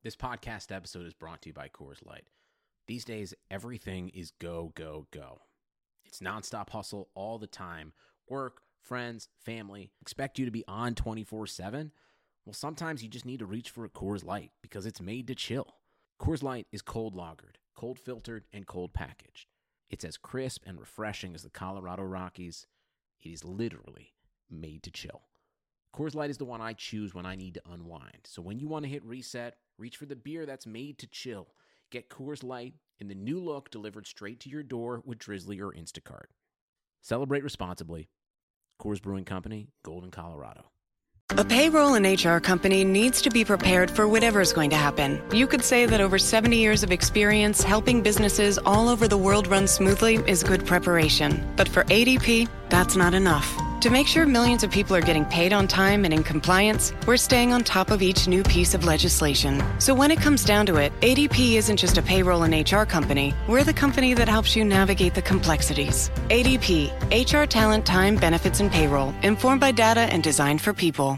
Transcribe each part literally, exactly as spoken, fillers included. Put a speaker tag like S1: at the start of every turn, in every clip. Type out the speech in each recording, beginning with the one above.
S1: This podcast episode is brought to you by Coors Light. These days, everything is go, go, go. It's nonstop hustle all the time. Work, friends, family, expect you to be on twenty-four seven. Well, sometimes you just need to reach for a Coors Light because it's made to chill. Coors Light is cold lagered, cold filtered, and cold packaged. It's as crisp and refreshing as the Colorado Rockies. It is literally made to chill. Coors Light is the one I choose when I need to unwind. So when you want to hit reset, reach for the beer that's made to chill. Get Coors Light in the new look delivered straight to your door with Drizzly or Instacart. Celebrate responsibly. Coors Brewing Company, Golden, Colorado.
S2: A payroll and H R company needs to be prepared for whatever is going to happen. You could say that over seventy years of experience helping businesses all over the world run smoothly is good preparation. But for A D P, that's not enough. To make sure millions of people are getting paid on time and in compliance, we're staying on top of each new piece of legislation. So when it comes down to it, A D P isn't just a payroll and H R company. We're the company that helps you navigate the complexities. A D P, H R talent, time, benefits, and payroll. Informed by data and designed for people.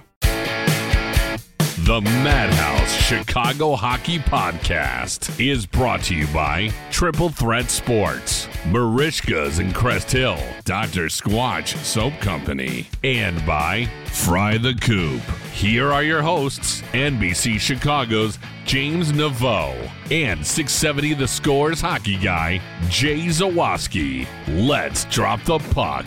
S3: The Madhouse Chicago Hockey Podcast is brought to you by Triple Threat Sports, Marishka's in Crest Hill, Doctor Squatch Soap Company, and by Fry the Coop. Here are your hosts, N B C Chicago's James Naveau and six seventy The Score's hockey guy, Jay Zawaski. Let's drop the puck.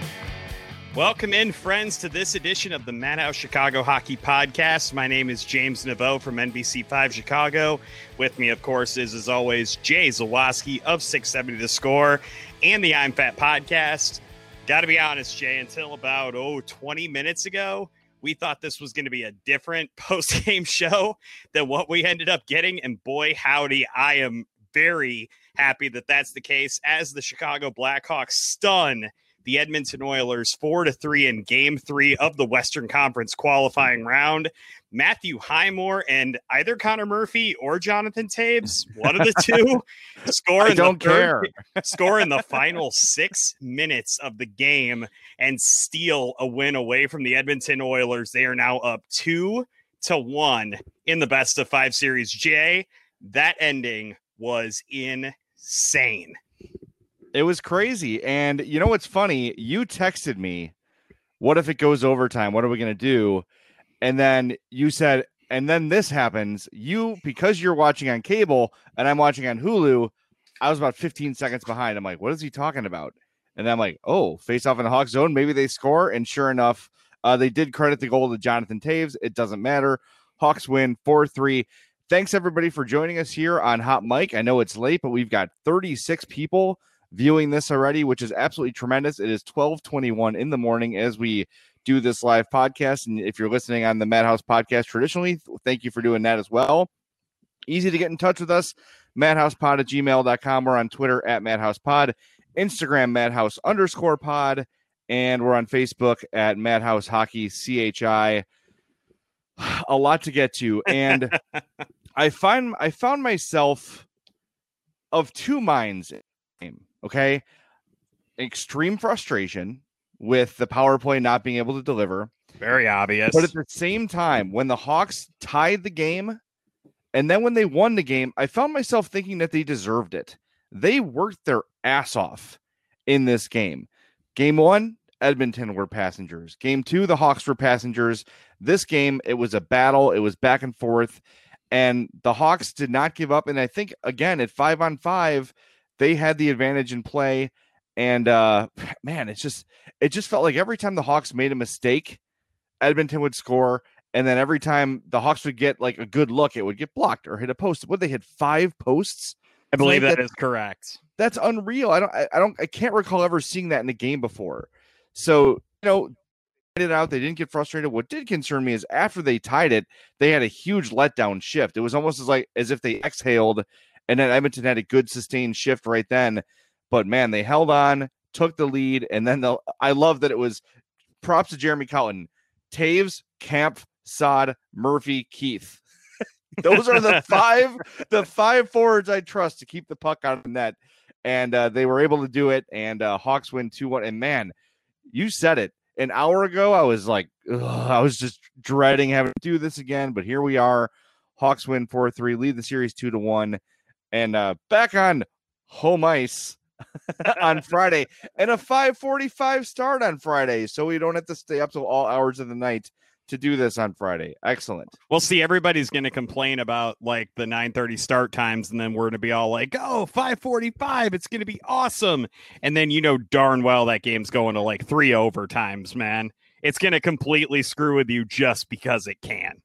S4: Welcome in, friends, to this edition of the Madhouse Chicago Hockey Podcast. My name is James Naveau from N B C five Chicago. With me, of course, is, as always, Jay Zawaski of six seventy The Score and the I'm Fat Podcast. Got to be honest, Jay, until about, oh, twenty minutes ago, we thought this was going to be a different post-game show than what we ended up getting. And boy, howdy, I am very happy that that's the case as the Chicago Blackhawks stun the Edmonton Oilers four to three in game three of the Western Conference qualifying round. Matthew Highmore and either Connor Murphy or Jonathan Toews, one of the two, score in
S5: don't
S4: the third,
S5: care.
S4: score in the final six minutes of the game and steal a win away from the Edmonton Oilers. They are now up two to one in the best of five series. Jay, that ending was insane.
S5: It was crazy. And you know what's funny? You texted me, what if it goes overtime? What are we going to do? And then you said, and then this happens. You, because you're watching on cable and I'm watching on Hulu, I was about fifteen seconds behind. I'm like, what is he talking about? And I'm like, oh, face off in the Hawk zone. Maybe they score. And sure enough, uh, they did credit the goal to Jonathan Toews. It doesn't matter. Hawks win four three. Thanks, everybody, for joining us here on Hot Mic. I know it's late, but we've got thirty-six people viewing this already, which is absolutely tremendous. It is twelve twenty-one in the morning as we do this live podcast. And if you're listening on the Madhouse Podcast traditionally, thank you for doing that as well. Easy to get in touch with us, madhousepod at gmail dot com. We're on Twitter at madhousepod, Instagram madhouse underscore pod, and we're on Facebook at Madhouse Hockey C H I. A lot to get to. And I find I found myself of two minds in the game. Okay, extreme frustration with the power play not being able to deliver.
S4: Very obvious.
S5: But at the same time, when the Hawks tied the game and then when they won the game, I found myself thinking that they deserved it. They worked their ass off in this game. Game one, Edmonton were passengers. Game two, the Hawks were passengers. This game, it was a battle. It was back and forth. And the Hawks did not give up. And I think, again, at five on five, they had the advantage in play, and uh, man, it's just it just felt like every time the Hawks made a mistake, Edmonton would score, and then every time the Hawks would get like a good look, it would get blocked or hit a post. What, they hit five posts?
S4: I believe
S5: like
S4: that is correct.
S5: That's unreal. I don't, I, I don't, I can't recall ever seeing that in a game before. So you know, it out. They didn't get frustrated. What did concern me is after they tied it, they had a huge letdown shift. It was almost as like as if they exhaled. And then Edmonton had a good sustained shift right then. But, man, they held on, took the lead, and then the I love that it was props to Jeremy Colton. Toews, Kampf, Saad, Murphy, Keith. Those are the five the five forwards I trust to keep the puck out of the net. And uh, they were able to do it, and uh, Hawks win two one. And, man, you said it. An hour ago, I was like, ugh, I was just dreading having to do this again. But here we are. Hawks win four three, lead the series two to one, and uh, back on home ice on Friday, and a five forty-five start on Friday, so we don't have to stay up till all hours of the night to do this on Friday. Excellent.
S4: Well, see, everybody's going to complain about like the nine thirty start times, and then we're going to be all like, oh, five forty-five, it's going to be awesome. And then you know darn well that game's going to like three overtimes, man. It's going to completely screw with you just because it can.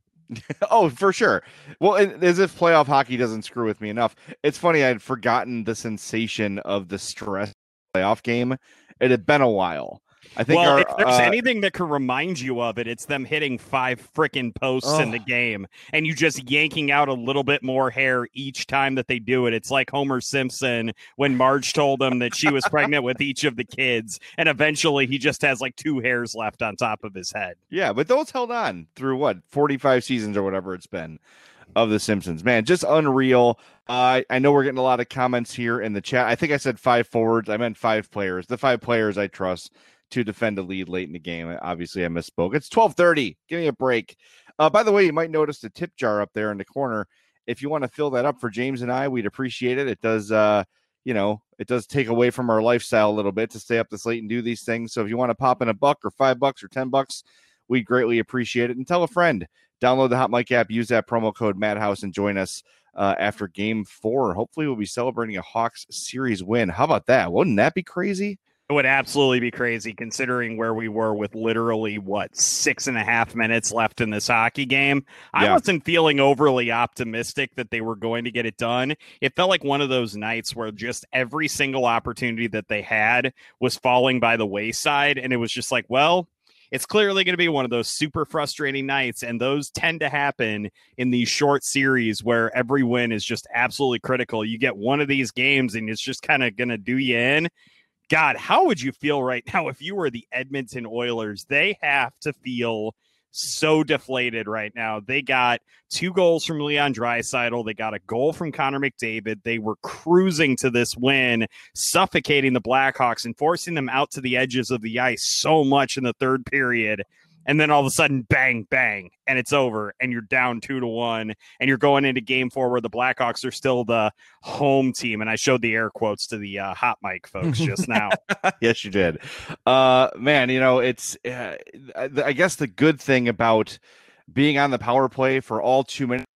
S5: Oh, for sure. Well, it, as if playoff hockey doesn't screw with me enough. It's funny, I'd forgotten the sensation of the stress playoff game. It had been a while. I think
S4: well,
S5: our,
S4: if there's
S5: uh,
S4: anything that can remind you of it, it's them hitting five freaking posts
S5: oh.
S4: in the game and you just yanking out a little bit more hair each time that they do it. It's like Homer Simpson when Marge told him that she was pregnant with each of the kids, and eventually he just has like two hairs left on top of his head.
S5: Yeah, but those held on through what, forty-five seasons or whatever it's been of The Simpsons. Man, just unreal. Uh, I know we're getting a lot of comments here in the chat. I think I said five forwards. I meant five players. The five players I trust to defend a lead late in the game. Obviously, I misspoke. It's twelve thirty. Give me a break. Uh, by the way, you might notice the tip jar up there in the corner. If you want to fill that up for James and I, we'd appreciate it. It does, uh, you know, it does take away from our lifestyle a little bit to stay up this late and do these things. So if you want to pop in a buck or five bucks or ten bucks, we'd greatly appreciate it. And tell a friend. Download the Hot Mic app. Use that promo code Madhouse and join us uh, after Game Four. Hopefully, we'll be celebrating a Hawks series win. How about that? Wouldn't that be crazy?
S4: It would absolutely be crazy considering where we were with literally, what, six and a half minutes left in this hockey game. I
S5: Yeah.
S4: wasn't feeling overly optimistic that they were going to get it done. It felt like one of those nights where just every single opportunity that they had was falling by the wayside. And it was just like, well, it's clearly going to be one of those super frustrating nights. And those tend to happen in these short series where every win is just absolutely critical. You get one of these games and it's just kind of going to do you in. God, how would you feel right now if you were the Edmonton Oilers? They have to feel so deflated right now. They got two goals from Leon Draisaitl. They got a goal from Connor McDavid. They were cruising to this win, suffocating the Blackhawks and forcing them out to the edges of the ice so much in the third period. And then all of a sudden, bang, bang, and it's over, and you're down two to one, and you're going into game four where the Blackhawks are still the home team. And I showed the air quotes to the uh, hot mic folks just now.
S5: Yes, you did. Uh, man, you know, it's, uh, I guess the good thing about being on the power play for all two minutes,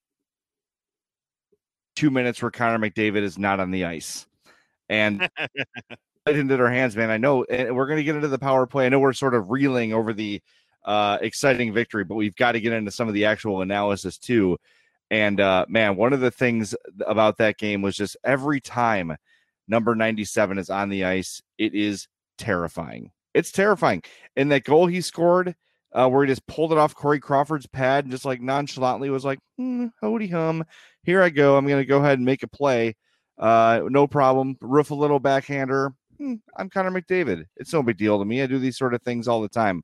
S5: two minutes where Connor McDavid is not on the ice. And it into their hands, man. I know we're going to get into the power play. I know we're sort of reeling over the uh, exciting victory, but we've got to get into some of the actual analysis too. And uh, man, one of the things about that game was just every time number ninety-seven is on the ice, it is terrifying. It's terrifying. And that goal he scored, uh, where he just pulled it off Corey Crawford's pad and just like nonchalantly was like, hmm, howdy hum, here I go. I'm going to go ahead and make a play. Uh, no problem. Roof a little backhander. Hmm, I'm Connor McDavid. It's no big deal to me. I do these sort of things all the time.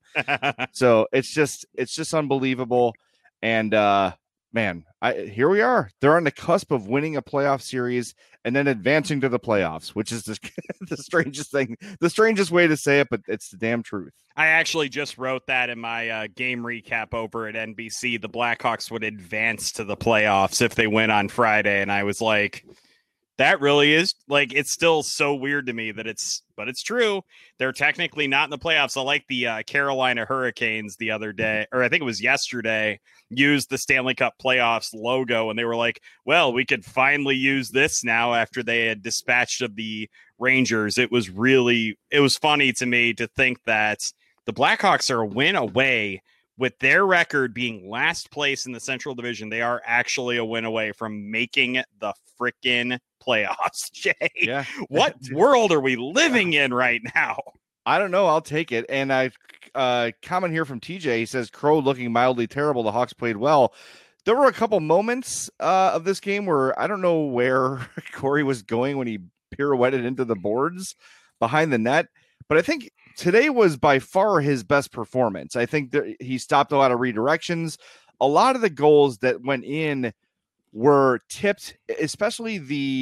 S5: So it's just, it's just unbelievable. And uh, man, I, here we are. They're on the cusp of winning a playoff series and then advancing to the playoffs, which is the, the strangest thing, the strangest way to say it, but it's the damn truth.
S4: I actually just wrote that in my uh, game recap over at N B C. The Blackhawks would advance to the playoffs if they win on Friday. And I was like, that really is like, it's still so weird to me that it's, but it's true. They're technically not in the playoffs. I like the uh, Carolina Hurricanes the other day, or I think it was yesterday, used the Stanley Cup playoffs logo. And they were like, well, we could finally use this now after they had dispatched of the Rangers. It was really, it was funny to me to think that the Blackhawks are a win away. With their record being last place in the Central Division, they are actually a win away from making the freaking playoffs, Jay.
S5: Yeah.
S4: What world are we living in right now?
S5: I don't know. I'll take it. And I uh, comment here from T J. He says, Crow looking mildly terrible. The Hawks played well. There were a couple moments uh, of this game where I don't know where Corey was going when he pirouetted into the boards behind the net. But I think today was by far his best performance. I think that he stopped a lot of redirections. A lot of the goals that went in were tipped, especially the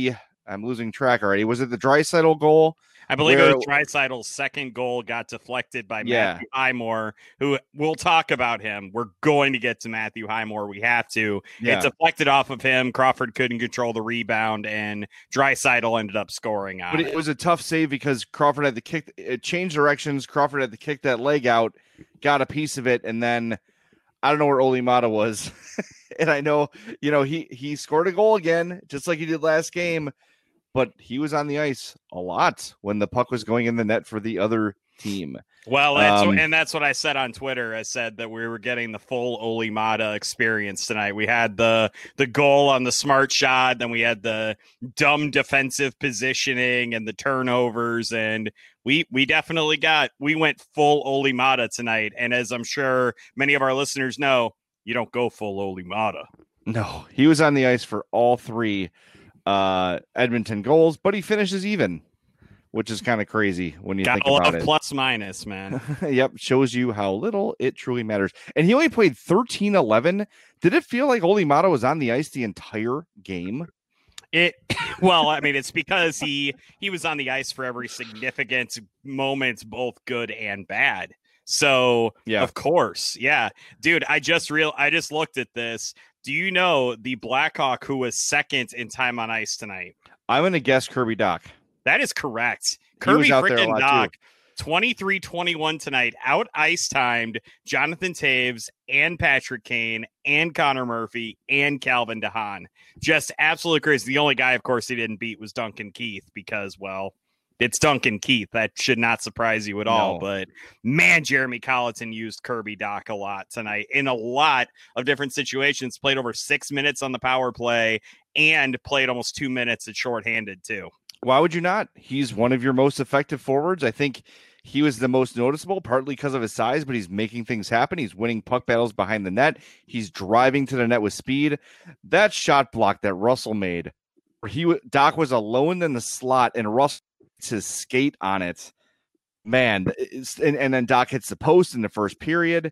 S5: I'm losing track already. Was it the Draisaitl goal?
S4: I believe Where, it was Draisaitl's second goal got deflected by yeah. Matthew Highmore, who we'll talk about him. We're going to get to Matthew Highmore. We have to. Yeah. It deflected off of him. Crawford couldn't control the rebound, and Draisaitl ended up scoring on
S5: but
S4: it.
S5: It was a tough save because Crawford had to kick. It changed directions. Crawford had to kick that leg out, got a piece of it, and then I don't know where Olli Maatta was. And I know, you know, he he scored a goal again, just like he did last game. But he was on the ice a lot when the puck was going in the net for the other team.
S4: Well, that's um, what, and that's what I said on Twitter. I said that we were getting the full Olli Maatta experience tonight. We had the the goal on the smart shot, then we had the dumb defensive positioning and the turnovers, and we we definitely got we went full Olli Maatta tonight. And as I'm sure many of our listeners know, you don't go full Olli Maatta.
S5: No, he was on the ice for all three uh Edmonton goals, but he finishes even, which is kind of crazy when you
S4: Got
S5: think about it.
S4: Plus minus, man.
S5: Yep, shows you how little it truly matters. And he only played thirteen eleven. Did it feel like Olli Maatta was on the ice the entire game?
S4: It well, I mean, it's because he he was on the ice for every significant moment, both good and bad. So yeah, of course, yeah, dude. I just real I just looked at this. Do you know the Blackhawk who was second in time on ice tonight?
S5: I'm going to guess Kirby Dach.
S4: That is correct. Kirby freaking Dach, twenty-three twenty-one tonight, out ice timed Jonathan Toews and Patrick Kane and Connor Murphy and Calvin DeHaan. Just absolutely crazy. The only guy, of course, he didn't beat was Duncan Keith because, well, it's Duncan Keith. That should not surprise you at all. No. But, man, Jeremy Colliton used Kirby Dach a lot tonight in a lot of different situations. Played over six minutes on the power play and played almost two minutes at shorthanded, too.
S5: Why would you not? He's one of your most effective forwards. I think he was the most noticeable, partly because of his size, but he's making things happen. He's winning puck battles behind the net. He's driving to the net with speed. That shot block that Russell made, where he Dach was alone in the slot and Russell his skate on it, man, and, and then Dach hits the post in the first period.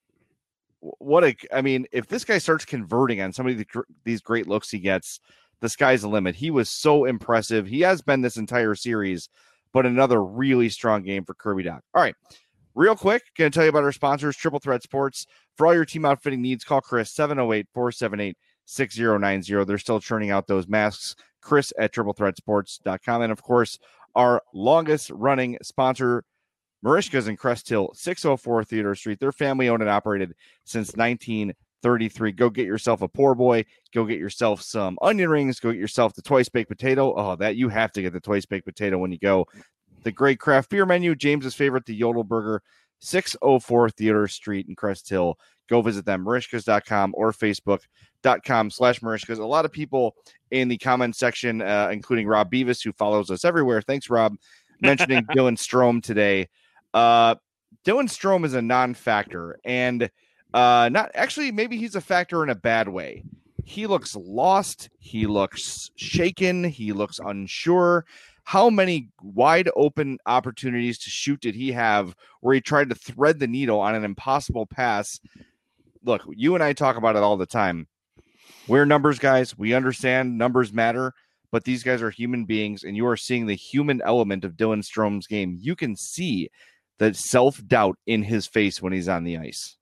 S5: What a, I mean, if this guy starts converting on some of the, these great looks he gets, the sky's the limit. He was so impressive. He has been this entire series, but another really strong game for Kirby Dach. All right, real quick, going to tell you about our sponsors, Triple Threat Sports. For all your team outfitting needs, call Chris, seven oh eight, four seven eight, six oh nine oh. They're still churning out those masks. Chris at triple threat sports dot com. And, of course, our longest running sponsor, Merichka's in Crest Hill, six oh four Theodore Street. They're family owned and operated since nineteen thirty-three. Go get yourself a poor boy. Go get yourself some onion rings. Go get yourself the twice baked potato. Oh, that you have to get the twice baked potato when you go. The great craft beer menu, James's favorite, the Yodel Burger, six oh four Theodore Street in Crest Hill. Go visit them, Merichkas dot com or Facebook.com slash Merichkas. A lot of people in the comment section, uh, including Rob Beavis, who follows us everywhere. Thanks, Rob. Mentioning Dylan Strome today. Uh, Dylan Strome is a non-factor, and uh, not actually, maybe he's a factor in a bad way. He looks lost. He looks shaken. He looks unsure. How many wide open opportunities to shoot did he have where he tried to thread the needle on an impossible pass? Look, you and I talk about it all the time. We're numbers guys. We understand numbers matter, but these guys are human beings, and you are seeing the human element of Dylan Strome's game. You can see the self-doubt in his face when he's on the ice.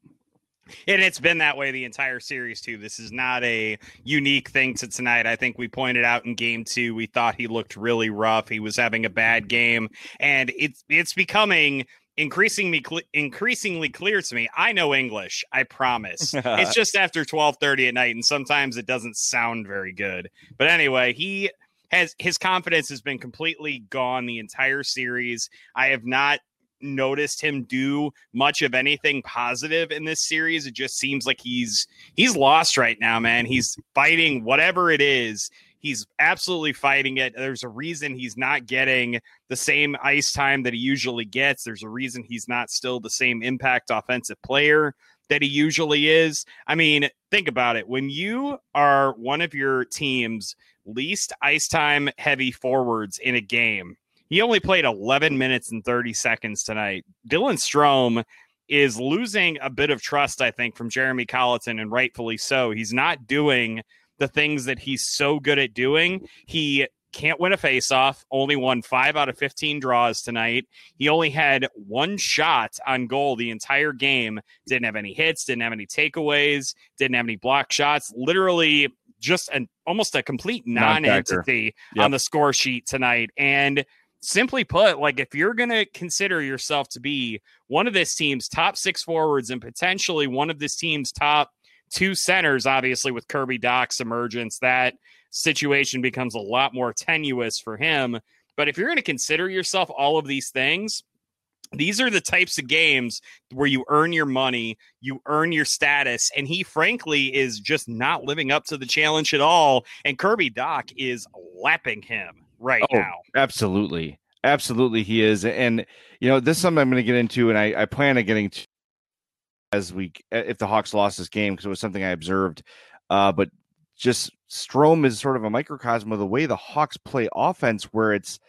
S4: And it's been that way the entire series, too. This is not a unique thing to tonight. I think we pointed out in game two, we thought he looked really rough. He was having a bad game, and it's it's becoming increasingly cl- increasingly clear to me. I know English, I promise. It's just after twelve thirty at night, and sometimes it doesn't sound very good. But anyway, he has his confidence has been completely gone the entire series. I have not noticed him do much of anything positive in this series. It just seems like he's he's lost right now, man. He's fighting whatever it is. He's absolutely fighting it. There's a reason he's not getting the same ice time that he usually gets. There's a reason he's not still the same impact offensive player that he usually is. I mean, think about it. When you are one of your team's least ice time heavy forwards in a game, he only played eleven minutes and thirty seconds tonight. Dylan Strome is losing a bit of trust, I think, from Jeremy Colliton, and rightfully so. He's not doing the things that he's so good at doing. He can't win a faceoff, only won five out of fifteen draws tonight. He only had one shot on goal the entire game. Didn't have any hits, didn't have any takeaways, didn't have any block shots. Literally just an almost a complete non-entity yep. on the score sheet tonight. And simply put, like, if you're going to consider yourself to be one of this team's top six forwards and potentially one of this team's top two centers, obviously with Kirby Dach's emergence, that situation becomes a lot more tenuous for him. But if you're going to consider yourself all of these things, these are the types of games where you earn your money, you earn your status, and he frankly is just not living up to the challenge at all. And Kirby Dach is lapping him right
S5: oh,
S4: now.
S5: Absolutely. Absolutely he is. And, you know, this is something I'm going to get into, and I, I plan on getting to as we, if the Hawks lost this game, because it was something I observed. Uh, but just Strome is sort of a microcosm of the way the Hawks play offense, where it's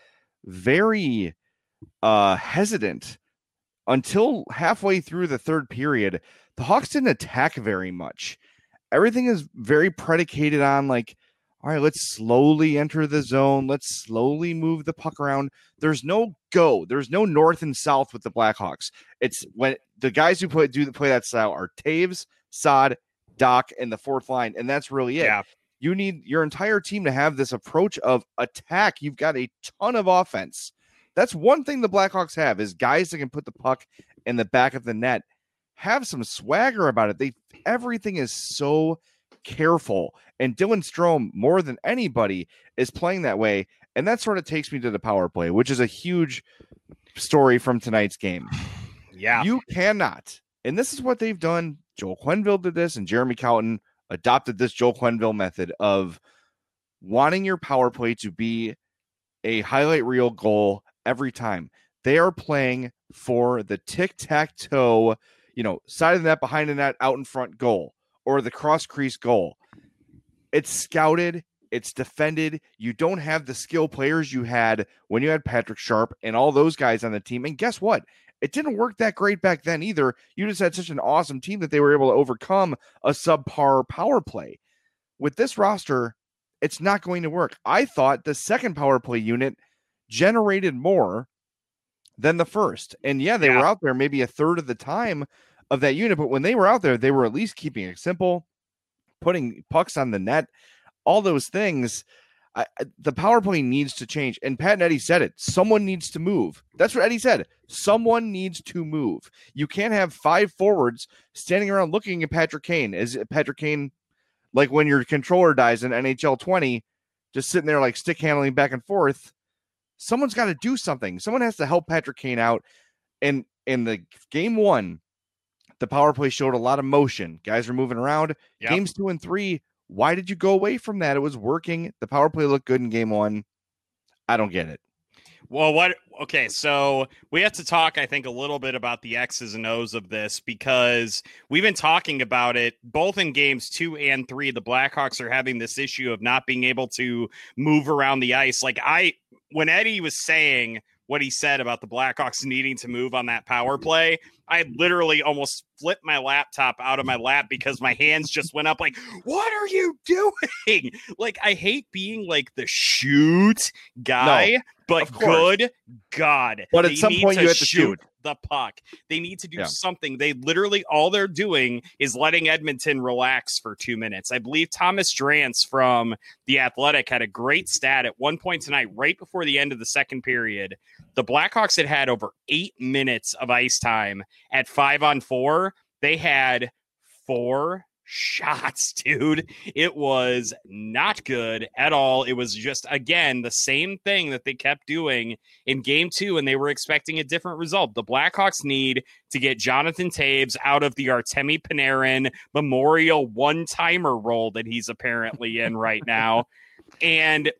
S5: very uh, hesitant. Until halfway through the third period, the Hawks didn't attack very much. Everything is very predicated on, like, all right, let's slowly enter the zone. Let's slowly move the puck around. There's no go. There's no north and south with the Blackhawks. It's when the guys who play do play that style are Taves, Saad, Dach, and the fourth line, and that's really it.
S4: Yeah.
S5: You need your entire team to have this approach of attack. You've got a ton of offense. That's one thing the Blackhawks have, is guys that can put the puck in the back of the net, have some swagger about it. They everything is so careful, and Dylan Strome, more than anybody, is playing that way. And that sort of takes me to the power play, which is a huge story from tonight's game.
S4: Yeah.
S5: You cannot, and this is what they've done. Joel Quenneville did this, and Jeremy Colton adopted this Joel Quenneville method of wanting your power play to be a highlight reel goal every time. They are playing for the tic-tac-toe, you know, side of the net, behind the net, out in front goal, or the cross crease goal. It's scouted. It's defended. You don't have the skill players you had when you had Patrick Sharp and all those guys on the team. And guess what? It didn't work that great back then either. You just had such an awesome team that they were able to overcome a subpar power play. With this roster, it's not going to work. I thought the second power play unit generated more than the first. And yeah, they yeah. were out there maybe a third of the time of that unit, but when they were out there, they were at least keeping it simple, putting pucks on the net, all those things. I, the power play needs to change. And Pat and Eddie said it. Someone needs to move. That's what Eddie said. Someone needs to move. You can't have five forwards standing around looking at Patrick Kane. Is Patrick Kane like when your controller dies in N H L twenty, just sitting there like stick handling back and forth? Someone's got to do something. Someone has to help Patrick Kane out. And in the game one, the power play showed a lot of motion. Guys were moving around. Yep. Games two and three, why did you go away from that? It was working. The power play looked good in game one. I don't get it.
S4: Well, what? Okay, so we have to talk, I think, a little bit about the X's and O's of this, because we've been talking about it both in games two and three. The Blackhawks are having this issue of not being able to move around the ice. Like I, when Eddie was saying what he said about the Blackhawks needing to move on that power play, I literally almost flipped my laptop out of my lap because my hands just went up like, what are you doing? Like, I hate being like the shoot guy, no, but good God.
S5: But at some point you have to shoot
S4: the puck. They need to do
S5: yeah.
S4: something. They literally, all they're doing is letting Edmonton relax for two minutes. I believe Thomas Drance from The Athletic had a great stat at one point tonight, right before the end of the second period. The Blackhawks had had over eight minutes of ice time at five on four. They had four shots, dude. It was not good at all. It was just, again, the same thing that they kept doing in game two, and they were expecting a different result. The Blackhawks need to get Jonathan Taves out of the Artemi Panarin Memorial one-timer role that he's apparently in right now. And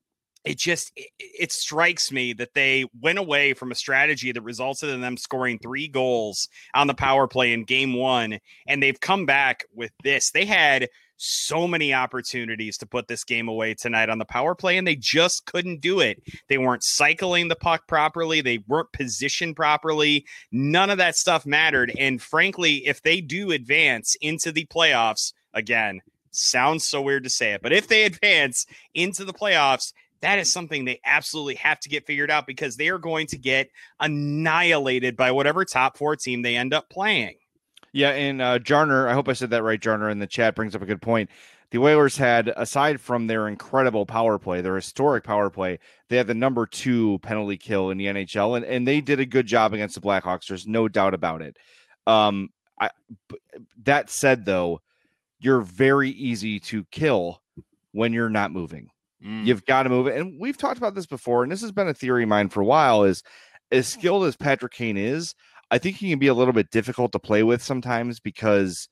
S4: it just, it, it strikes me that they went away from a strategy that resulted in them scoring three goals on the power play in game one, and they've come back with this. They had so many opportunities to put this game away tonight on the power play, and they just couldn't do it. They weren't cycling the puck properly. They weren't positioned properly. None of that stuff mattered. And frankly, if they do advance into the playoffs, again, sounds so weird to say it, but if they advance into the playoffs, that is something they absolutely have to get figured out, because they are going to get annihilated by whatever top four team they end up playing.
S5: Yeah, and uh, Jarner, I hope I said that right, Jarner, in the chat brings up a good point. The Oilers had, aside from their incredible power play, their historic power play, they had the number two penalty kill in the N H L, and, and they did a good job against the Blackhawks. There's no doubt about it. Um, I, that said, though, you're very easy to kill when you're not moving. Mm. You've got to move it. And we've talked about this before, and this has been a theory of mine for a while, is as skilled as Patrick Kane is, I think he can be a little bit difficult to play with sometimes because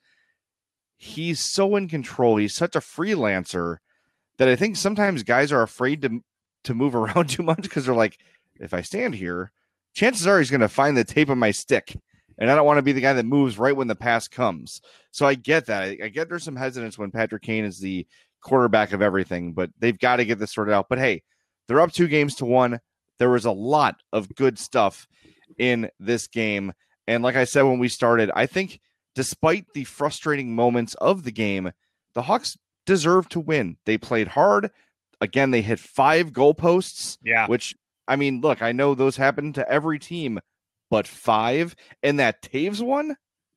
S5: he's so in control. He's such a freelancer that I think sometimes guys are afraid to, to move around too much because they're like, if I stand here, chances are he's going to find the tape of my stick. And I don't want to be the guy that moves right when the pass comes. So I get that. I, I get there's some hesitance when Patrick Kane is the quarterback of everything, but they've got to get this sorted out. But hey, they're up two games to one. There was a lot of good stuff in this game. And like I said when we started, I think despite the frustrating moments of the game, the Hawks deserve to win. They played hard. Again, they hit five goalposts. Yeah. Which, I mean, look, I know those happen to every team, but five, and that Taves one?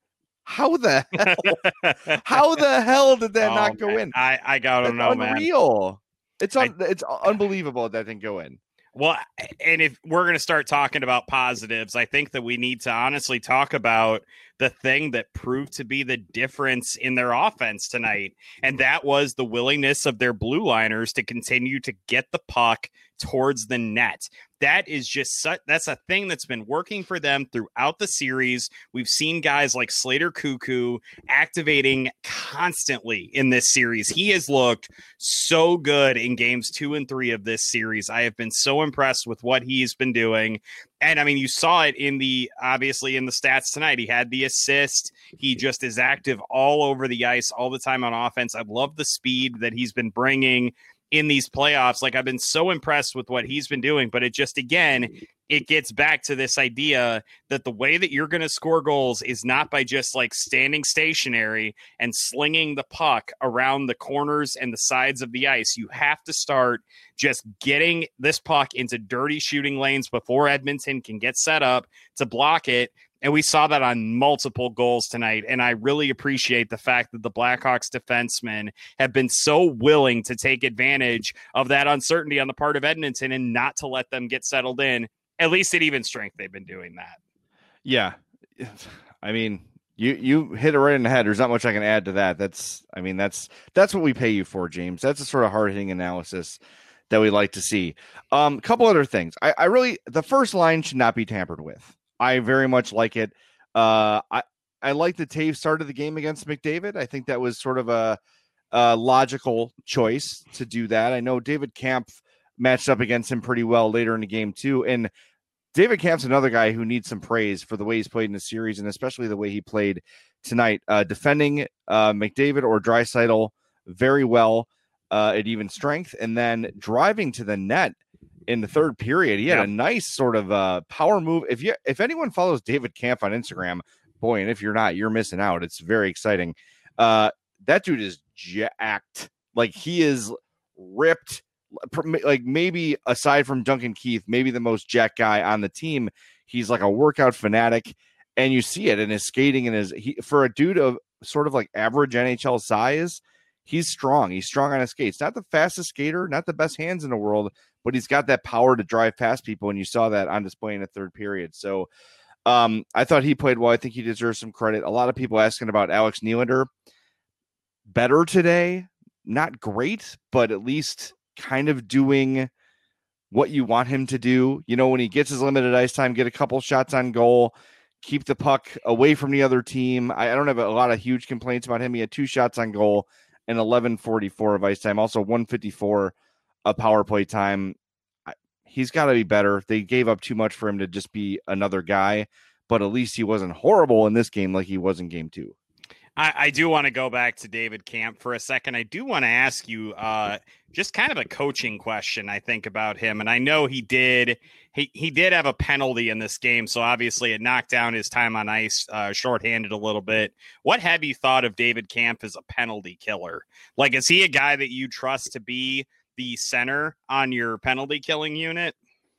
S5: How the hell? How the hell did that oh, not go
S4: man.
S5: in?
S4: I, I gotta
S5: That's
S4: know,
S5: unreal.
S4: man.
S5: Unreal. It's un- I, it's unbelievable that didn't go in.
S4: Well, and if we're going to start talking about positives, I think that we need to honestly talk about the thing that proved to be the difference in their offense tonight. And that was the willingness of their blue liners to continue to get the puck towards the net. That is just such, that's a thing that's been working for them throughout the series. We've seen guys like Slater Cuckoo activating constantly in this series. He has looked so good in games two and three of this series. I have been so impressed with what he's been doing. And I mean, you saw it in the, obviously in the stats tonight. He had the assist. He just is active all over the ice all the time on offense. I love the speed that he's been bringing in these playoffs. Like, I've been so impressed with what he's been doing, but it just, again, it gets back to this idea that the way that you're going to score goals is not by just like standing stationary and slinging the puck around the corners and the sides of the ice. You have to start just getting this puck into dirty shooting lanes before Edmonton can get set up to block it. And we saw that on multiple goals tonight. And I really appreciate the fact that the Blackhawks defensemen have been so willing to take advantage of that uncertainty on the part of Edmonton and not to let them get settled in. At least at even strength, they've been doing that.
S5: Yeah. I mean, you, you hit it right in the head. There's not much I can add to that. That's, I mean, that's, that's what we pay you for, James. That's a sort of hard hitting analysis that we like to see. Um, a couple other things. I, I really, the first line should not be tampered with. I very much like it. Uh, I, I like the Taves started the game against McDavid. I think that was sort of a, a logical choice to do that. I know David Kampf matched up against him pretty well later in the game too. And David Kampf's another guy who needs some praise for the way he's played in the series, and especially the way he played tonight, uh, defending uh, McDavid or Draisaitl very well uh, at even strength, and then driving to the net in the third period. He had yeah. a nice sort of uh, power move. If you, if anyone follows David Kampf on Instagram, boy, and if you're not, you're missing out. It's very exciting. Uh, that dude is jacked. Like, he is ripped. Like, maybe aside from Duncan Keith, maybe the most jacked guy on the team. He's like a workout fanatic, and you see it in his skating and his, he, for a dude of sort of like average N H L size, he's strong. He's strong on his skates. Not the fastest skater, not the best hands in the world, but he's got that power to drive past people, and you saw that on display in the third period. So um, I thought he played well. I think he deserves some credit. A lot of people asking about Alex Nylander. Better today, not great, but at least kind of doing what you want him to do. You know, when he gets his limited ice time, get a couple shots on goal, keep the puck away from the other team. I, I don't have a lot of huge complaints about him. He had two shots on goal and eleven forty-four of ice time, also one fifty-four of power play time. I, he's got to be better. They gave up too much for him to just be another guy, but at least he wasn't horrible in this game like he was in game two.
S4: I, I do want to go back to David Kampf for a second. I do want to ask you uh, just kind of a coaching question, I think, about him. And I know he did he, he did have a penalty in this game, so obviously it knocked down his time on ice, uh, shorthanded a little bit. What have you thought of David Kampf as a penalty killer? Like, is he a guy that you trust to be the center on your penalty killing unit?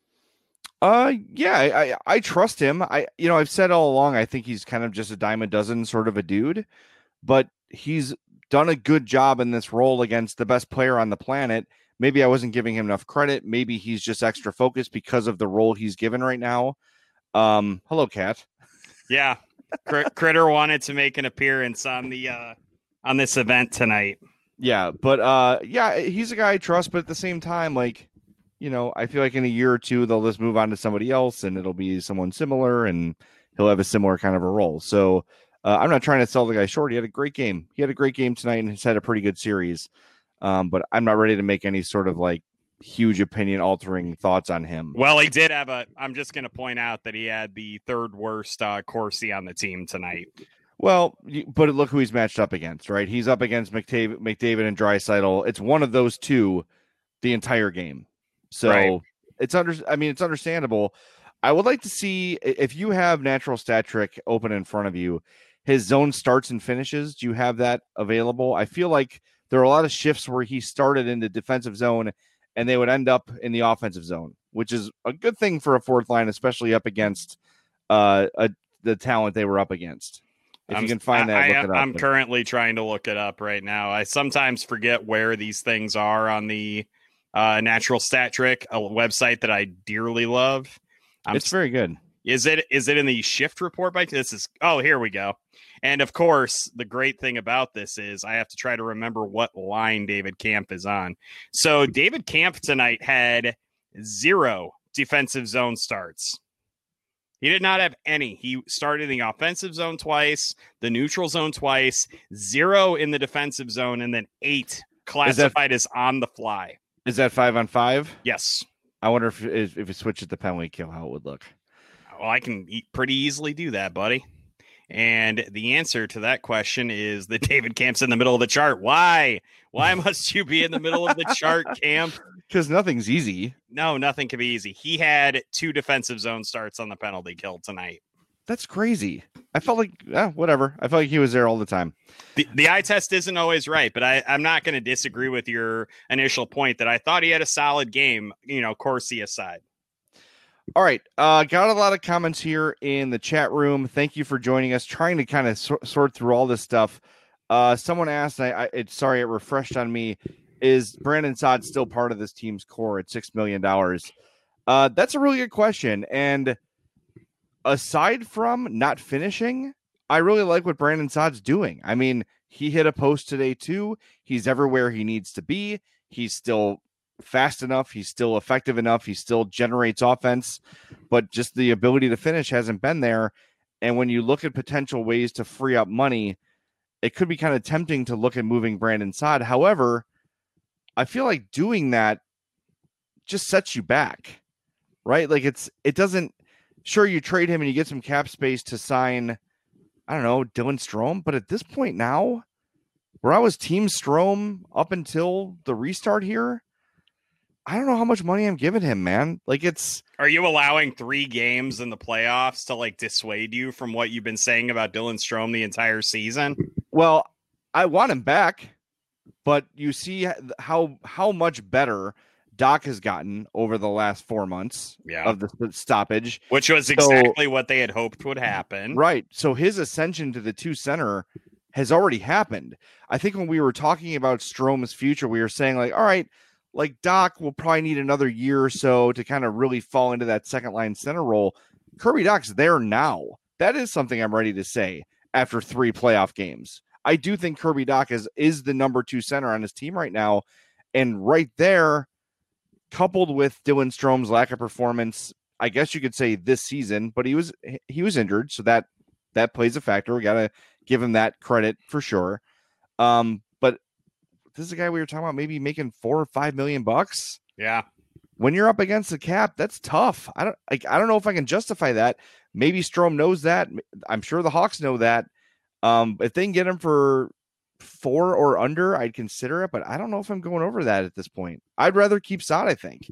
S5: Uh, yeah, I, I, I trust him. I, you know, I've said all along, I think he's kind of just a dime a dozen sort of a dude, but he's done a good job in this role against the best player on the planet. Maybe I wasn't giving him enough credit. Maybe he's just extra focused because of the role he's given right now. Um, hello, Kat.
S4: Yeah. Cr- Critter wanted to make an appearance on the, uh, on this event tonight.
S5: Yeah. But, uh, yeah, he's a guy I trust, but at the same time, like, you know, I feel like in a year or two, they'll just move on to somebody else and it'll be someone similar and he'll have a similar kind of a role. So uh, I'm not trying to sell the guy short. He had a great game. He had a great game tonight and he's had a pretty good series. Um, but I'm not ready to make any sort of like huge opinion altering thoughts on him.
S4: Well, he did have a, I'm just going to point out that he had the third worst uh, Corsi on the team tonight.
S5: Well, but look who he's matched up against, right? He's up against McDavid, McDavid and Draisaitl. It's one of those two the entire game. So right. it's under, I mean, it's understandable. I would like to see if you have Natural Stat Trick open in front of you, his zone starts and finishes. Do you have that available? I feel like there are a lot of shifts where he started in the defensive zone and they would end up in the offensive zone, which is a good thing for a fourth line, especially up against uh, a, the talent they were up against. If
S4: I'm,
S5: you can find that,
S4: I,
S5: look
S4: I,
S5: it up.
S4: I'm currently trying to look it up right now. I sometimes forget where these things are on the Uh, Natural Stat Trick, a website that I dearly love. I'm,
S5: it's very good.
S4: Is it? Is it in the shift report? By this is. Oh, here we go. And of course, the great thing about this is I have to try to remember what line David Kampf is on. So David Kampf tonight had zero defensive zone starts. He did not have any. He started in the offensive zone twice, the neutral zone twice, zero in the defensive zone, and then eight classified that- as on the fly.
S5: Is that five on five?
S4: Yes.
S5: I wonder if if it switches the penalty kill, how it would look.
S4: Well, I can pretty easily do that, buddy. And the answer to that question is that David Kampf's in the middle of the chart. Why? Why must you be in the middle of the chart, Kampf?
S5: Because nothing's easy.
S4: No, nothing can be easy. He had two defensive zone starts on the penalty kill tonight.
S5: That's crazy. I felt like, eh, whatever. I felt like he was there all the time.
S4: The, the eye test isn't always right, but I, I'm not going to disagree with your initial point that I thought he had a solid game, you know, Corsi aside.
S5: All right. Uh, got a lot of comments here in the chat room. Thank you for joining us, trying to kind of so- sort through all this stuff. Uh, someone asked, I, I it's sorry, it refreshed on me. Is Brandon Saad still part of this team's core at six million dollars? Uh, that's a really good question. And aside from not finishing, I really like what Brandon Saad's doing. I mean, he hit a post today too. He's everywhere he needs to be. He's still fast enough. He's still effective enough. He still generates offense, but just the ability to finish hasn't been there. And when you look at potential ways to free up money, it could be kind of tempting to look at moving Brandon Saad. However, I feel like doing that just sets you back, right? Like it's, it doesn't, sure, you trade him and you get some cap space to sign, I don't know, Dylan Strome. But at this point now, where I was team Strome up until the restart here, I don't know how much money I'm giving him, man. Like it's.
S4: Are you allowing three games in the playoffs to like dissuade you from what you've been saying about Dylan Strome the entire season?
S5: Well, I want him back, but you see how how much better Doc has gotten over the last four months
S4: yeah.
S5: of the stoppage,
S4: which was exactly so, what they had hoped would happen.
S5: Right. So his ascension to the two center has already happened. I think when we were talking about Strome's future, we were saying like, all right, like Doc will probably need another year or so to kind of really fall into that second line center role. Kirby Doc's there now. That is something I'm ready to say after three playoff games. I do think Kirby Doc is, is the number two center on his team right now. And right there, coupled with Dylan Strome's lack of performance, I guess you could say this season, but he was he was injured, so that that plays a factor. We gotta give him that credit for sure. Um, but this is a guy we were talking about maybe making four or five million bucks.
S4: Yeah.
S5: When you're up against the cap, that's tough. I don't I, I don't know if I can justify that. Maybe Strome knows that. I'm sure the Hawks know that. Um, if they can get him for four or under, I'd consider it, but I don't know if I'm going over that at this point. I'd rather keep Saad, I think.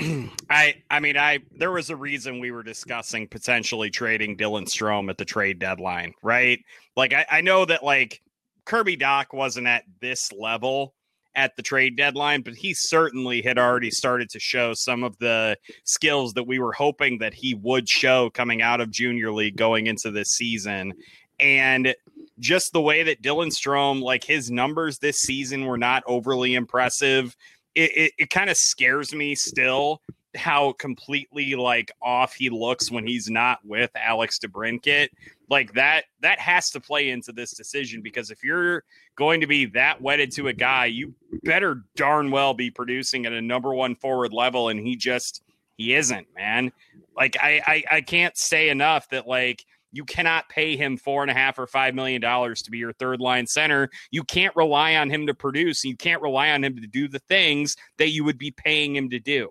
S4: I I mean, I there was a reason we were discussing potentially trading Dylan Strome at the trade deadline, right? Like, I, I know that, like, Kirby Doc wasn't at this level, at the trade deadline, but he certainly had already started to show some of the skills that we were hoping that he would show coming out of Junior League going into this season. And just the way that Dylan Strome, like his numbers this season were not overly impressive. It, it, it kind of scares me still how completely like off he looks when he's not with Alex DeBrincat. Like that, that has to play into this decision, because if you're going to be that wedded to a guy, you better darn well be producing at a number one forward level. And he just, he isn't, man. Like I, I, I can't say enough that like, you cannot pay him four and a half or five million dollars to be your third line center. You can't rely on him to produce. You can't rely on him to do the things that you would be paying him to do.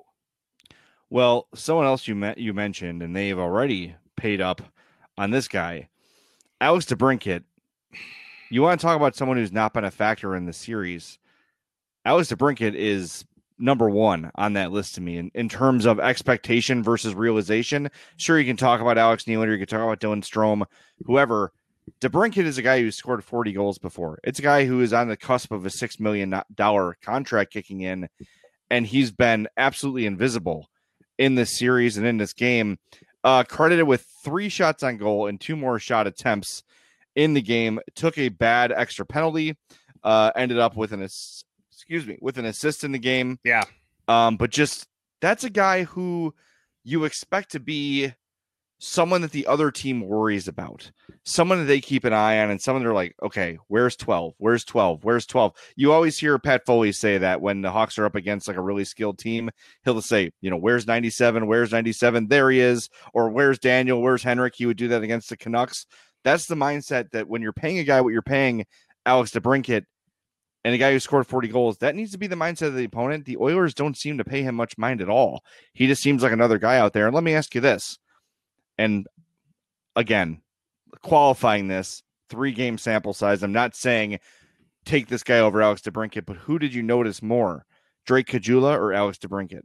S5: Well, someone else you met you mentioned, and they've already paid up on this guy, Alex DeBrincat. You want to talk about someone who's not been a factor in the series? Alex DeBrincat is number one on that list to me in, in terms of expectation versus realization. Sure, you can talk about Alex Nylander, you can talk about Dylan Strome, whoever. DeBrincat is a guy who scored forty goals before. It's a guy who is on the cusp of a six million dollars contract kicking in, and he's been absolutely invisible in this series and in this game. Uh, credited with three shots on goal and two more shot attempts in the game. Took a bad extra penalty. Uh, ended up with an ass- excuse me with an assist in the game.
S4: Yeah.
S5: Um, but just that's a guy who you expect to be someone that the other team worries about, someone that they keep an eye on, and someone they're like, okay, where's twelve? Where's twelve? Where's twelve? You always hear Pat Foley say that when the Hawks are up against like a really skilled team, he'll say, you know, where's ninety-seven? Where's ninety-seven? There he is. Or where's Daniel? Where's Henrik? He would do that against the Canucks. That's the mindset that when you're paying a guy what you're paying Alex DeBrincat, and a guy who scored forty goals, that needs to be the mindset of the opponent. The Oilers don't seem to pay him much mind at all. He just seems like another guy out there. And let me ask you this. And again, qualifying this three game sample size. I'm not saying take this guy over Alex DeBrincat, but who did you notice more, Drake Caggiula or Alex DeBrincat?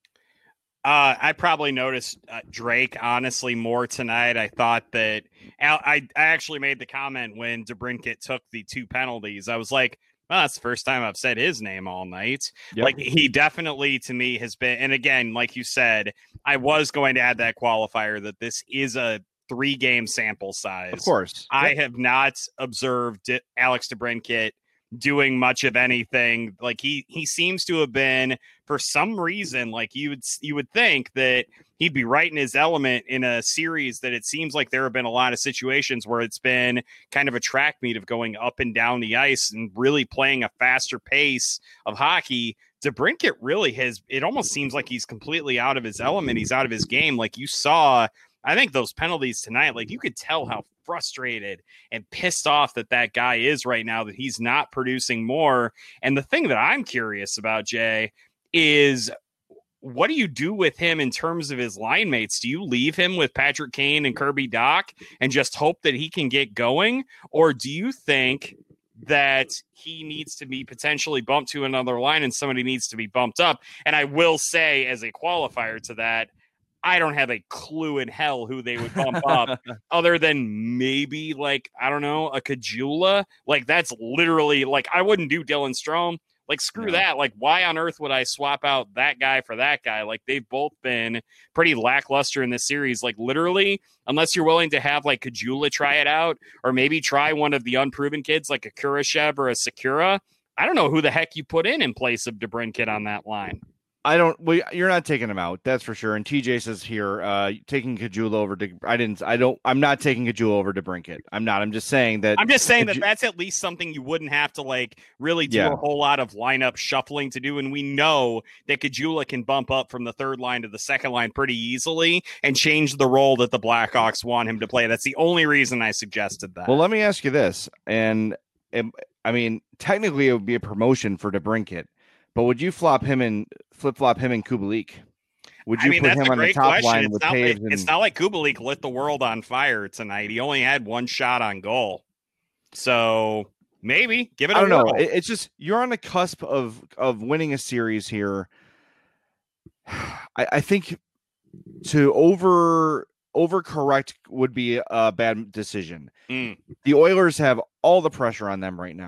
S4: Uh, I probably noticed uh, Drake, honestly, more tonight. I thought that Al- I, I actually made the comment when DeBrincat took the two penalties. I was like, well, that's the first time I've said his name all night. Yep. Like he definitely to me has been, and again, like you said, I was going to add that qualifier that this is a three game sample size.
S5: Of course.
S4: I
S5: yep.
S4: have not observed Alex DeBrincat doing much of anything. Like he, he seems to have been, for some reason, like you would, you would think that he'd be right in his element in a series that it seems like there have been a lot of situations where it's been kind of a track meet of going up and down the ice and really playing a faster pace of hockey. DeBrincat really has, it almost seems like he's completely out of his element. He's out of his game. Like you saw, I think those penalties tonight, like you could tell how frustrated and pissed off that that guy is right now, that he's not producing more. And the thing that I'm curious about, Jay, is what do you do with him in terms of his line mates? Do you leave him with Patrick Kane and Kirby Dach and just hope that he can get going? Or do you think that he needs to be potentially bumped to another line and somebody needs to be bumped up? And I will say, as a qualifier to that, I don't have a clue in hell who they would bump up other than maybe like, I don't know, a Caggiula. Like that's literally like, I wouldn't do Dylan Strome. Like, screw no. that. Like, why on earth would I swap out that guy for that guy? Like, they've both been pretty lackluster in this series. Like, literally, unless you're willing to have, like, Caggiula try it out, or maybe try one of the unproven kids like a Kurashev or a Sakura, I don't know who the heck you put in in place of DeBrincat on that line.
S5: I don't. Well, you're not taking him out, that's for sure. And T J says here, uh, taking Caggiula over. De, I didn't. I don't. I'm not taking Caggiula over DeBrincat. I'm not. I'm just saying that.
S4: I'm just saying that that's at least something you wouldn't have to like really do yeah. a whole lot of lineup shuffling to do. And we know that Caggiula can bump up from the third line to the second line pretty easily and change the role that the Blackhawks want him to play. That's the only reason I suggested that.
S5: Well, let me ask you this, and, and I mean, technically, it would be a promotion for DeBrincat. But would you flop him and flip flop him and Kubalik? Would you
S4: I mean,
S5: put
S4: that's
S5: him
S4: a
S5: on
S4: great
S5: the top
S4: question.
S5: line
S4: It's
S5: with
S4: not,
S5: Taves?
S4: it,
S5: And...
S4: It's not like Kubalik lit the world on fire tonight. He only had one shot on goal. So maybe give it a
S5: I don't
S4: whirl.
S5: know. It, it's just you're on the cusp of of winning a series here. I, I think to over overcorrect would be a bad decision.
S4: Mm.
S5: The Oilers have all the pressure on them right now.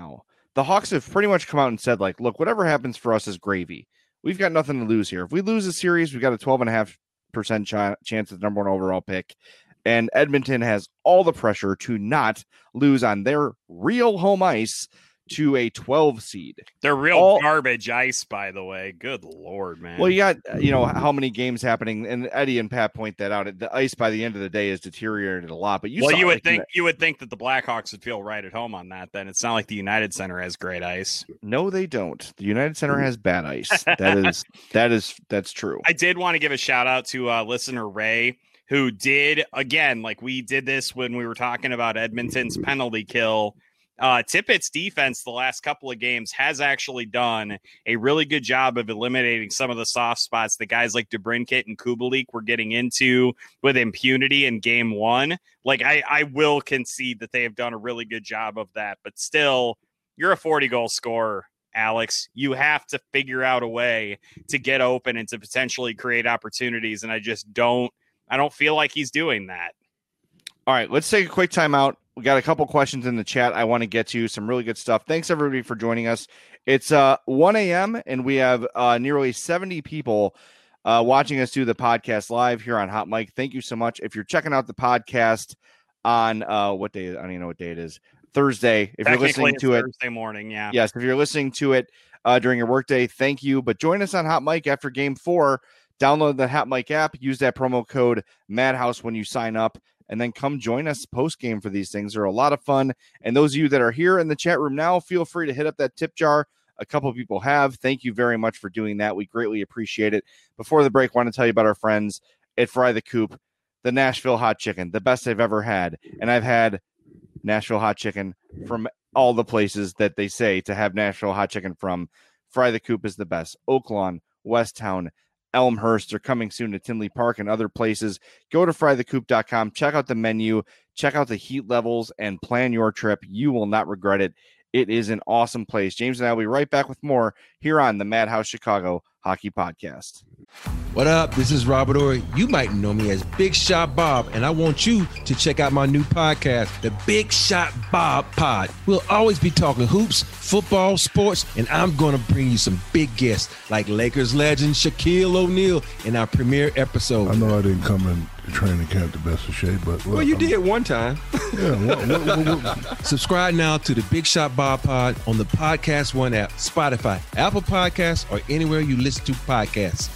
S5: the Hawks have pretty much come out and said, like, look, whatever happens for us is gravy. We've got nothing to lose here. If we lose a series, we've got a twelve and a half percent ch- chance of the number one overall pick. And Edmonton has all the pressure to not lose on their real home ice to a twelve seed.
S4: They're real
S5: all,
S4: garbage ice, by the way. Good Lord, man.
S5: Well, you got, you know, how many games happening, and Eddie and Pat point that out. The ice by the end of the day has deteriorated a lot. But you
S4: well,
S5: saw,
S4: you would
S5: like,
S4: think
S5: the,
S4: you would think that the Blackhawks would feel right at home on that. Then it's not like the United Center has great ice.
S5: No, they don't. The United Center has bad ice. That is that is that's true.
S4: I did want to give a shout out to uh, listener Ray, who did, again, like we did this when we were talking about Edmonton's penalty kill. Uh, Tippett's defense the last couple of games has actually done a really good job of eliminating some of the soft spots that guys like DeBrincat and Kubalik were getting into with impunity in game one. Like, I, I will concede that they have done a really good job of that, but still, you're a forty-goal scorer, Alex. You have to figure out a way to get open and to potentially create opportunities, and I just don't, I don't feel like he's doing that.
S5: All right, let's take a quick timeout. We got a couple questions in the chat I want to get to. Some really good stuff. Thanks, everybody, for joining us. It's uh, one a.m., and we have uh, nearly seventy people uh, watching us do the podcast live here on Hot Mic. Thank you so much. If you're checking out the podcast on uh, what day? I don't even know what day it is. Thursday. If you're listening to it.
S4: Thursday morning, yeah.
S5: Yes, if you're listening to it uh, during your workday, thank you. But join us on Hot Mic after game four. Download the Hot Mic app. Use that promo code Madhouse when you sign up. And then come join us post-game for these things. They're a lot of fun. And those of you that are here in the chat room now, feel free to hit up that tip jar. A couple of people have. Thank you very much for doing that. We greatly appreciate it. Before the break, I want to tell you about our friends at Fry the Coop, the Nashville hot chicken, the best I've ever had. And I've had Nashville hot chicken from all the places that they say to have Nashville hot chicken from. Fry the Coop is the best. Oaklawn, Westtown, Elmhurst. They're coming soon to Tinley Park and other places. Go to fry the coop dot com. Check out the menu. Check out the heat levels and plan your trip. You will not regret it. It is an awesome place. James and I will be right back with more here on the Madhouse Chicago Hockey Podcast.
S6: What up? This is Robert Ory. You might know me as Big Shot Bob, and I want you to check out my new podcast, the Big Shot Bob Pod. We'll always be talking hoops, football, sports, and I'm going to bring you some big guests like Lakers legend Shaquille O'Neal in our premiere episode.
S7: I know I didn't come in to training camp the best of shape, but
S6: well, well you I'm, did one time.
S7: Yeah. What, what, what, what?
S6: Subscribe now to the Big Shot Bob Pod on the Podcast One app, Spotify, Apple Podcasts, or anywhere you listen to podcasts.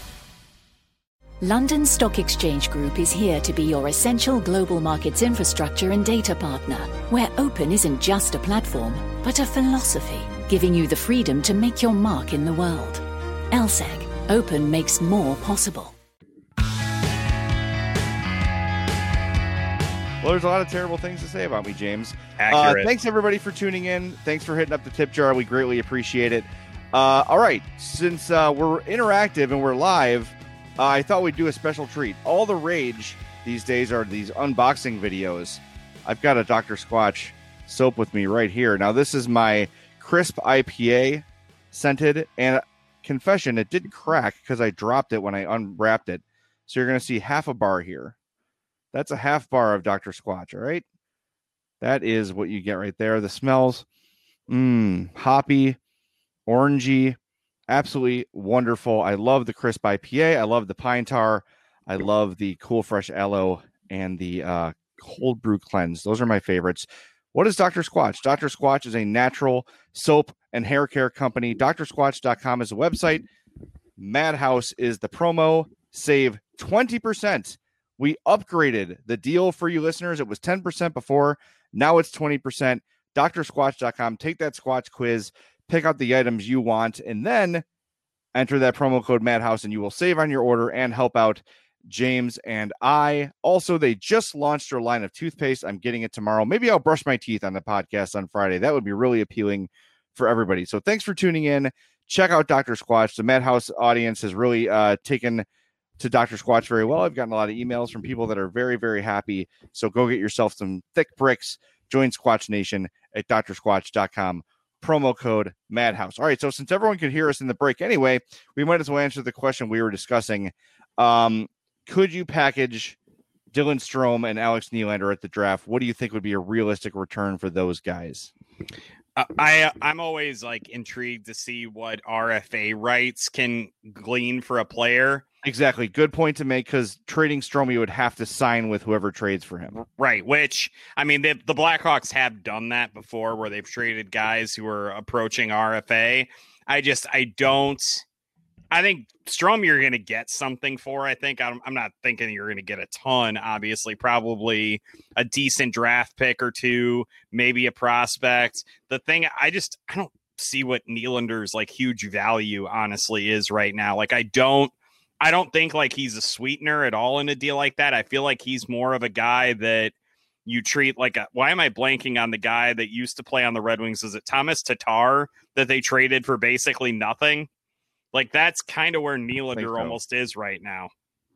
S8: London Stock Exchange Group is here to be your essential global markets infrastructure and data partner, where open isn't just a platform, but a philosophy, giving you the freedom to make your mark in the world. L S E G, open makes more possible.
S5: Well, there's a lot of terrible things to say about me, James.
S4: Accurate.
S5: Uh, thanks, everybody, for tuning in. Thanks for hitting up the tip jar. We greatly appreciate it. Uh, all right, since uh, we're interactive and we're live, Uh, I thought we'd do a special treat. All the rage these days are these unboxing videos. I've got a Doctor Squatch soap with me right here. Now, this is my crisp I P A scented, and confession, it did crack because I dropped it when I unwrapped it. So you're going to see half a bar here. That's a half bar of Doctor Squatch, all right? That is what you get right there. The smells, mmm, hoppy, orangey. Absolutely wonderful. I love the crisp I P A. I love the pine tar. I love the cool fresh aloe and the uh, cold brew cleanse. Those are my favorites. What is Doctor Squatch? Doctor Squatch is a natural soap and hair care company. D R squatch dot com is the website. Madhouse is the promo. Save twenty percent. We upgraded the deal for you listeners. It was ten percent before. Now it's twenty percent. D R squatch dot com. Take that Squatch quiz. Pick out the items you want, and then enter that promo code Madhouse, and you will save on your order and help out James and I. Also, they just launched their line of toothpaste. I'm getting it tomorrow. Maybe I'll brush my teeth on the podcast on Friday. That would be really appealing for everybody. So thanks for tuning in. Check out Doctor Squatch. The Madhouse audience has really uh, taken to Doctor Squatch very well. I've gotten a lot of emails from people that are very, very happy. So go get yourself some thick bricks. Join Squatch Nation at D R squatch dot com. Promo code Madhouse. All right, so since everyone could hear us in the break anyway, we might as well answer the question we were discussing. Um, could you package Dylan Strome and Alex Nylander at the draft? What do you think would be a realistic return for those guys?
S4: Uh, I I'm always like intrigued to see what R F A rights can glean for a player.
S5: Exactly. Good point to make, because trading Strome would have to sign with whoever trades for him.
S4: Right. Which, I mean, the, the Blackhawks have done that before where they've traded guys who are approaching R F A. I just, I don't, I think Strome you're going to get something for. I think I'm, I'm not thinking you're going to get a ton, obviously, probably a decent draft pick or two, maybe a prospect. The thing, I just, I don't see what Nylander's like huge value honestly is right now. Like, I don't, I don't think like he's a sweetener at all in a deal like that. I feel like he's more of a guy that you treat like a, why am I blanking on the guy that used to play on the Red Wings? Is it Thomas Tatar that they traded for basically nothing? Like, that's kind of where Nylander so. almost is right now.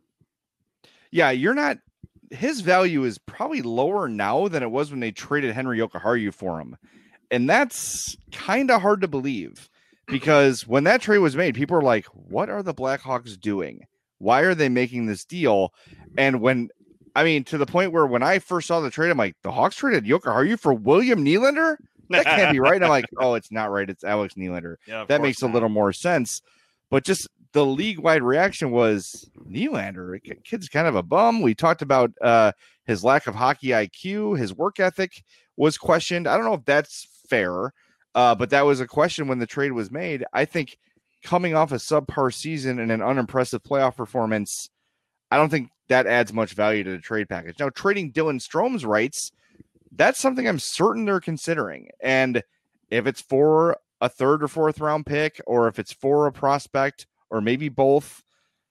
S5: Yeah, you're not, his value is probably lower now than it was when they traded Henri Jokiharju for him. And that's kind of hard to believe. Because when that trade was made, people were like, what are the Blackhawks doing? Why are they making this deal? And when, I mean, to the point where when I first saw the trade, I'm like, the Hawks traded Jokiharju for William Nylander? That can't be right. And I'm like, oh, it's not right. It's Alex Nylander. Yeah, that makes not. a little more sense. But just the league-wide reaction was, Nylander, kid's kind of a bum. We talked about uh, his lack of hockey I Q. His work ethic was questioned. I don't know if that's fair. Uh, but that was a question when the trade was made. I think coming off a subpar season and an unimpressive playoff performance, I don't think that adds much value to the trade package. Now, trading Dylan Strome's rights, that's something I'm certain they're considering. And if it's for a third or fourth round pick, or if it's for a prospect, or maybe both,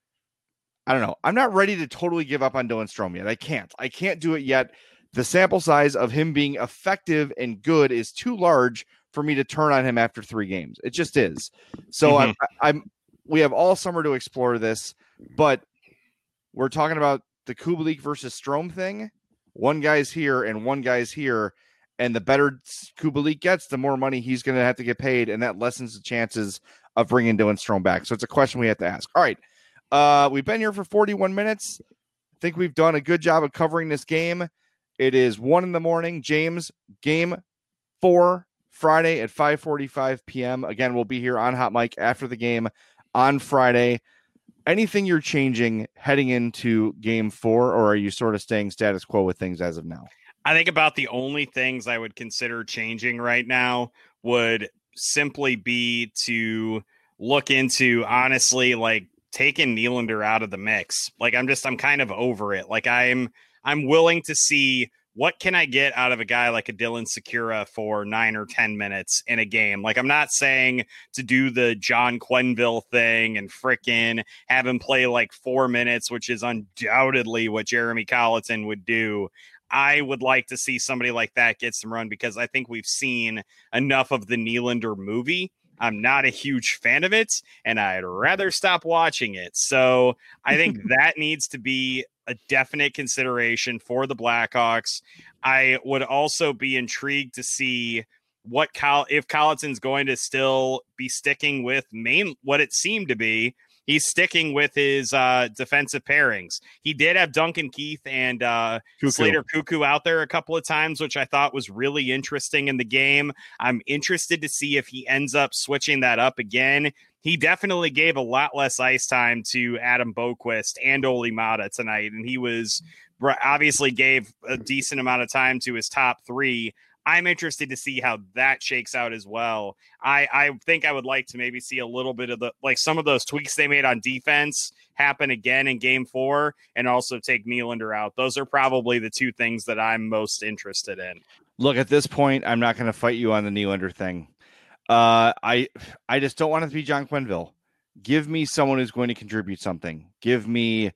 S5: I don't know. I'm not ready to totally give up on Dylan Strome yet. I can't. I can't do it yet. The sample size of him being effective and good is too large for me to turn on him after three games. It just is. So mm-hmm. I'm, I'm, we have all summer to explore this, but we're talking about the Kubalik versus Strome thing. One guy's here and one guy's here, and the better Kubalik gets, the more money he's going to have to get paid, and that lessens the chances of bringing Dylan Strome back. So it's a question we have to ask. All right. Uh, we've been here for forty-one minutes. I think we've done a good job of covering this game. It is one in the morning. James, game four, Friday at five forty-five p.m. Again, we'll be here on Hot Mic after the game on Friday. Anything you're changing heading into game four, or are you sort of staying status quo with things as of now?
S4: I think about the only things I would consider changing right now would simply be to look into, honestly, like taking Nylander out of the mix. Like, I'm just, I'm kind of over it. Like, I'm, I'm willing to see what can I get out of a guy like a Dylan Sikura for nine or ten minutes in a game? Like, I'm not saying to do the John Quenneville thing and frickin' have him play like four minutes, which is undoubtedly what Jeremy Colliton would do. I would like to see somebody like that get some run, because I think we've seen enough of the Nylander movie. I'm not a huge fan of it, and I'd rather stop watching it. So I think that needs to be a definite consideration for the Blackhawks. I would also be intrigued to see what Col- if Colliton's going to still be sticking with main what it seemed to be. He's sticking with his uh, defensive pairings. He did have Duncan Keith and uh, Slater Cuckoo out there a couple of times, which I thought was really interesting in the game. I'm interested to see if he ends up switching that up again. He definitely gave a lot less ice time to Adam Boquist and Olli Maatta tonight, and he was obviously gave a decent amount of time to his top three. I'm interested to see how that shakes out as well. I, I think I would like to maybe see a little bit of the, like some of those tweaks they made on defense happen again in game four, and also take Nylander out. Those are probably the two things that I'm most interested in.
S5: Look, at this point, I'm not going to fight you on the Nylander thing. Uh, I, I just don't want it to be John Quenneville. Give me someone who's going to contribute something. Give me,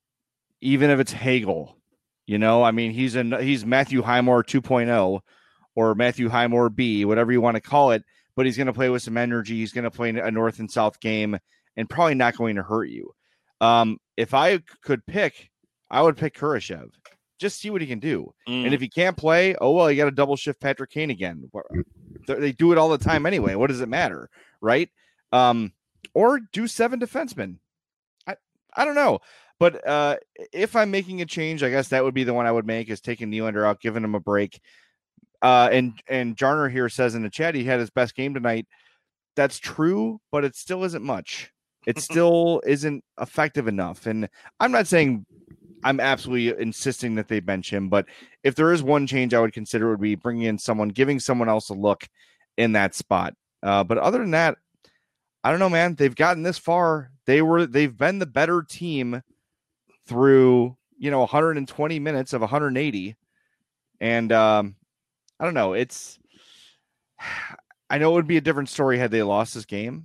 S5: even if it's Hagel, you know, I mean, he's a, he's Matthew Highmore two point oh. or Matthew Highmore B, whatever you want to call it, but he's going to play with some energy. He's going to play a North and South game and probably not going to hurt you. Um, if I could pick, I would pick Kurashev. Just see what he can do. Mm. And if he can't play, oh, well, you got to double shift Patrick Kane again. They do it all the time anyway. What does it matter? Right. Um, or do seven defensemen. I, I don't know. But uh, if I'm making a change, I guess that would be the one I would make, is taking Nylander out, giving him a break. uh, and and Jarner here says in the chat he had his best game tonight. That's true, but it still isn't much. It still isn't effective enough. And I'm not saying I'm absolutely insisting that they bench him, but if there is one change I would consider, it would be bringing in someone, giving someone else a look in that spot. Uh, but other than that, I don't know, man. They've gotten this far. They were, they've been the better team through, you know, one hundred twenty minutes of one hundred eighty. And um, I don't know. It's, I know it would be a different story had they lost this game,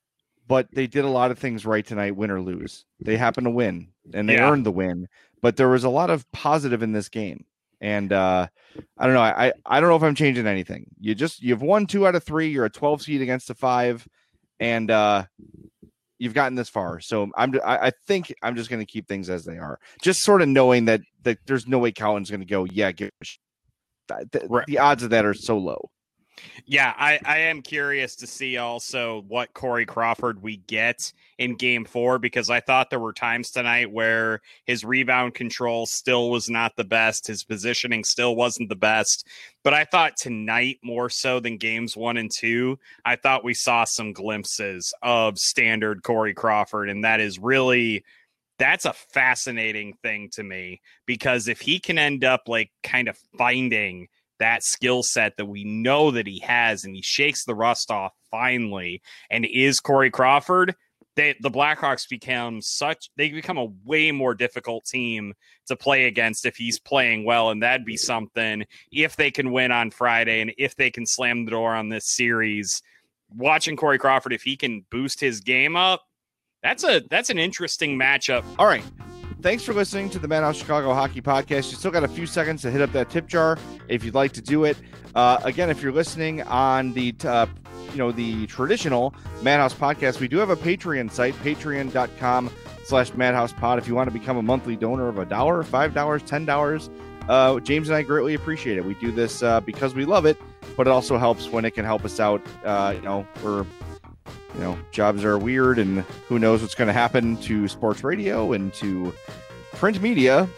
S5: but they did a lot of things right tonight, win or lose. They happened to win and they yeah. earned the win, but there was a lot of positive in this game. And uh, I don't know. I, I don't know if I'm changing anything. You just, you've won two out of three. You're a twelve seed against a five, and uh, you've gotten this far. So I'm, I, I think I'm just going to keep things as they are. Just sort of knowing that, that there's no way Cowan's going to go, yeah, give a sh-. The, right. the odds of that are so low.
S4: Yeah, I, I am curious to see also what Corey Crawford we get in game four, because I thought there were times tonight where his rebound control still was not the best. His positioning still wasn't the best. But I thought tonight, more so than games one and two, I thought we saw some glimpses of standard Corey Crawford. And that is really, that's a fascinating thing to me, because if he can end up like kind of finding that skill set that we know that he has, and he shakes the rust off finally, and is Corey Crawford, they, the Blackhawks become such, they become a way more difficult team to play against if he's playing well. And that'd be something if they can win on Friday, and if they can slam the door on this series, watching Corey Crawford, if he can boost his game up, that's a, that's an interesting matchup.
S5: All right. Thanks for listening to the Madhouse Chicago Hockey Podcast. You still got a few seconds to hit up that tip jar if you'd like to do it. Uh, again, if you're listening on the uh, you know the traditional Madhouse Podcast, we do have a Patreon site, patreon.com slash Madhouse Pod. If you want to become a monthly donor of a dollar, five dollars, ten dollars, uh, James and I greatly appreciate it. We do this uh, because we love it, but it also helps when it can help us out. Uh, you know, we're You know, jobs are weird, and who knows what's going to happen to sports radio and to print media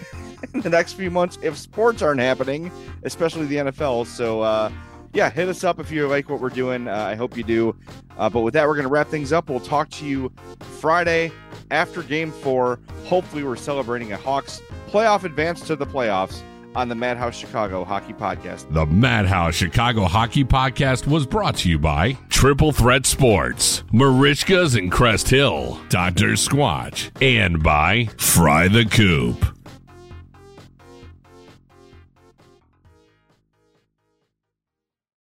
S5: in the next few months if sports aren't happening, especially the N F L. So, uh, yeah, hit us up if you like what we're doing. Uh, I hope you do. Uh, but with that, we're going to wrap things up. We'll talk to you Friday after game four. Hopefully, we're celebrating a Hawks playoff advance to the playoffs on the Madhouse Chicago Hockey Podcast.
S3: The Madhouse Chicago Hockey Podcast was brought to you by Triple Threat Sports, Marishkas and Crest Hill, Doctor Squatch, and by Fry the Coop.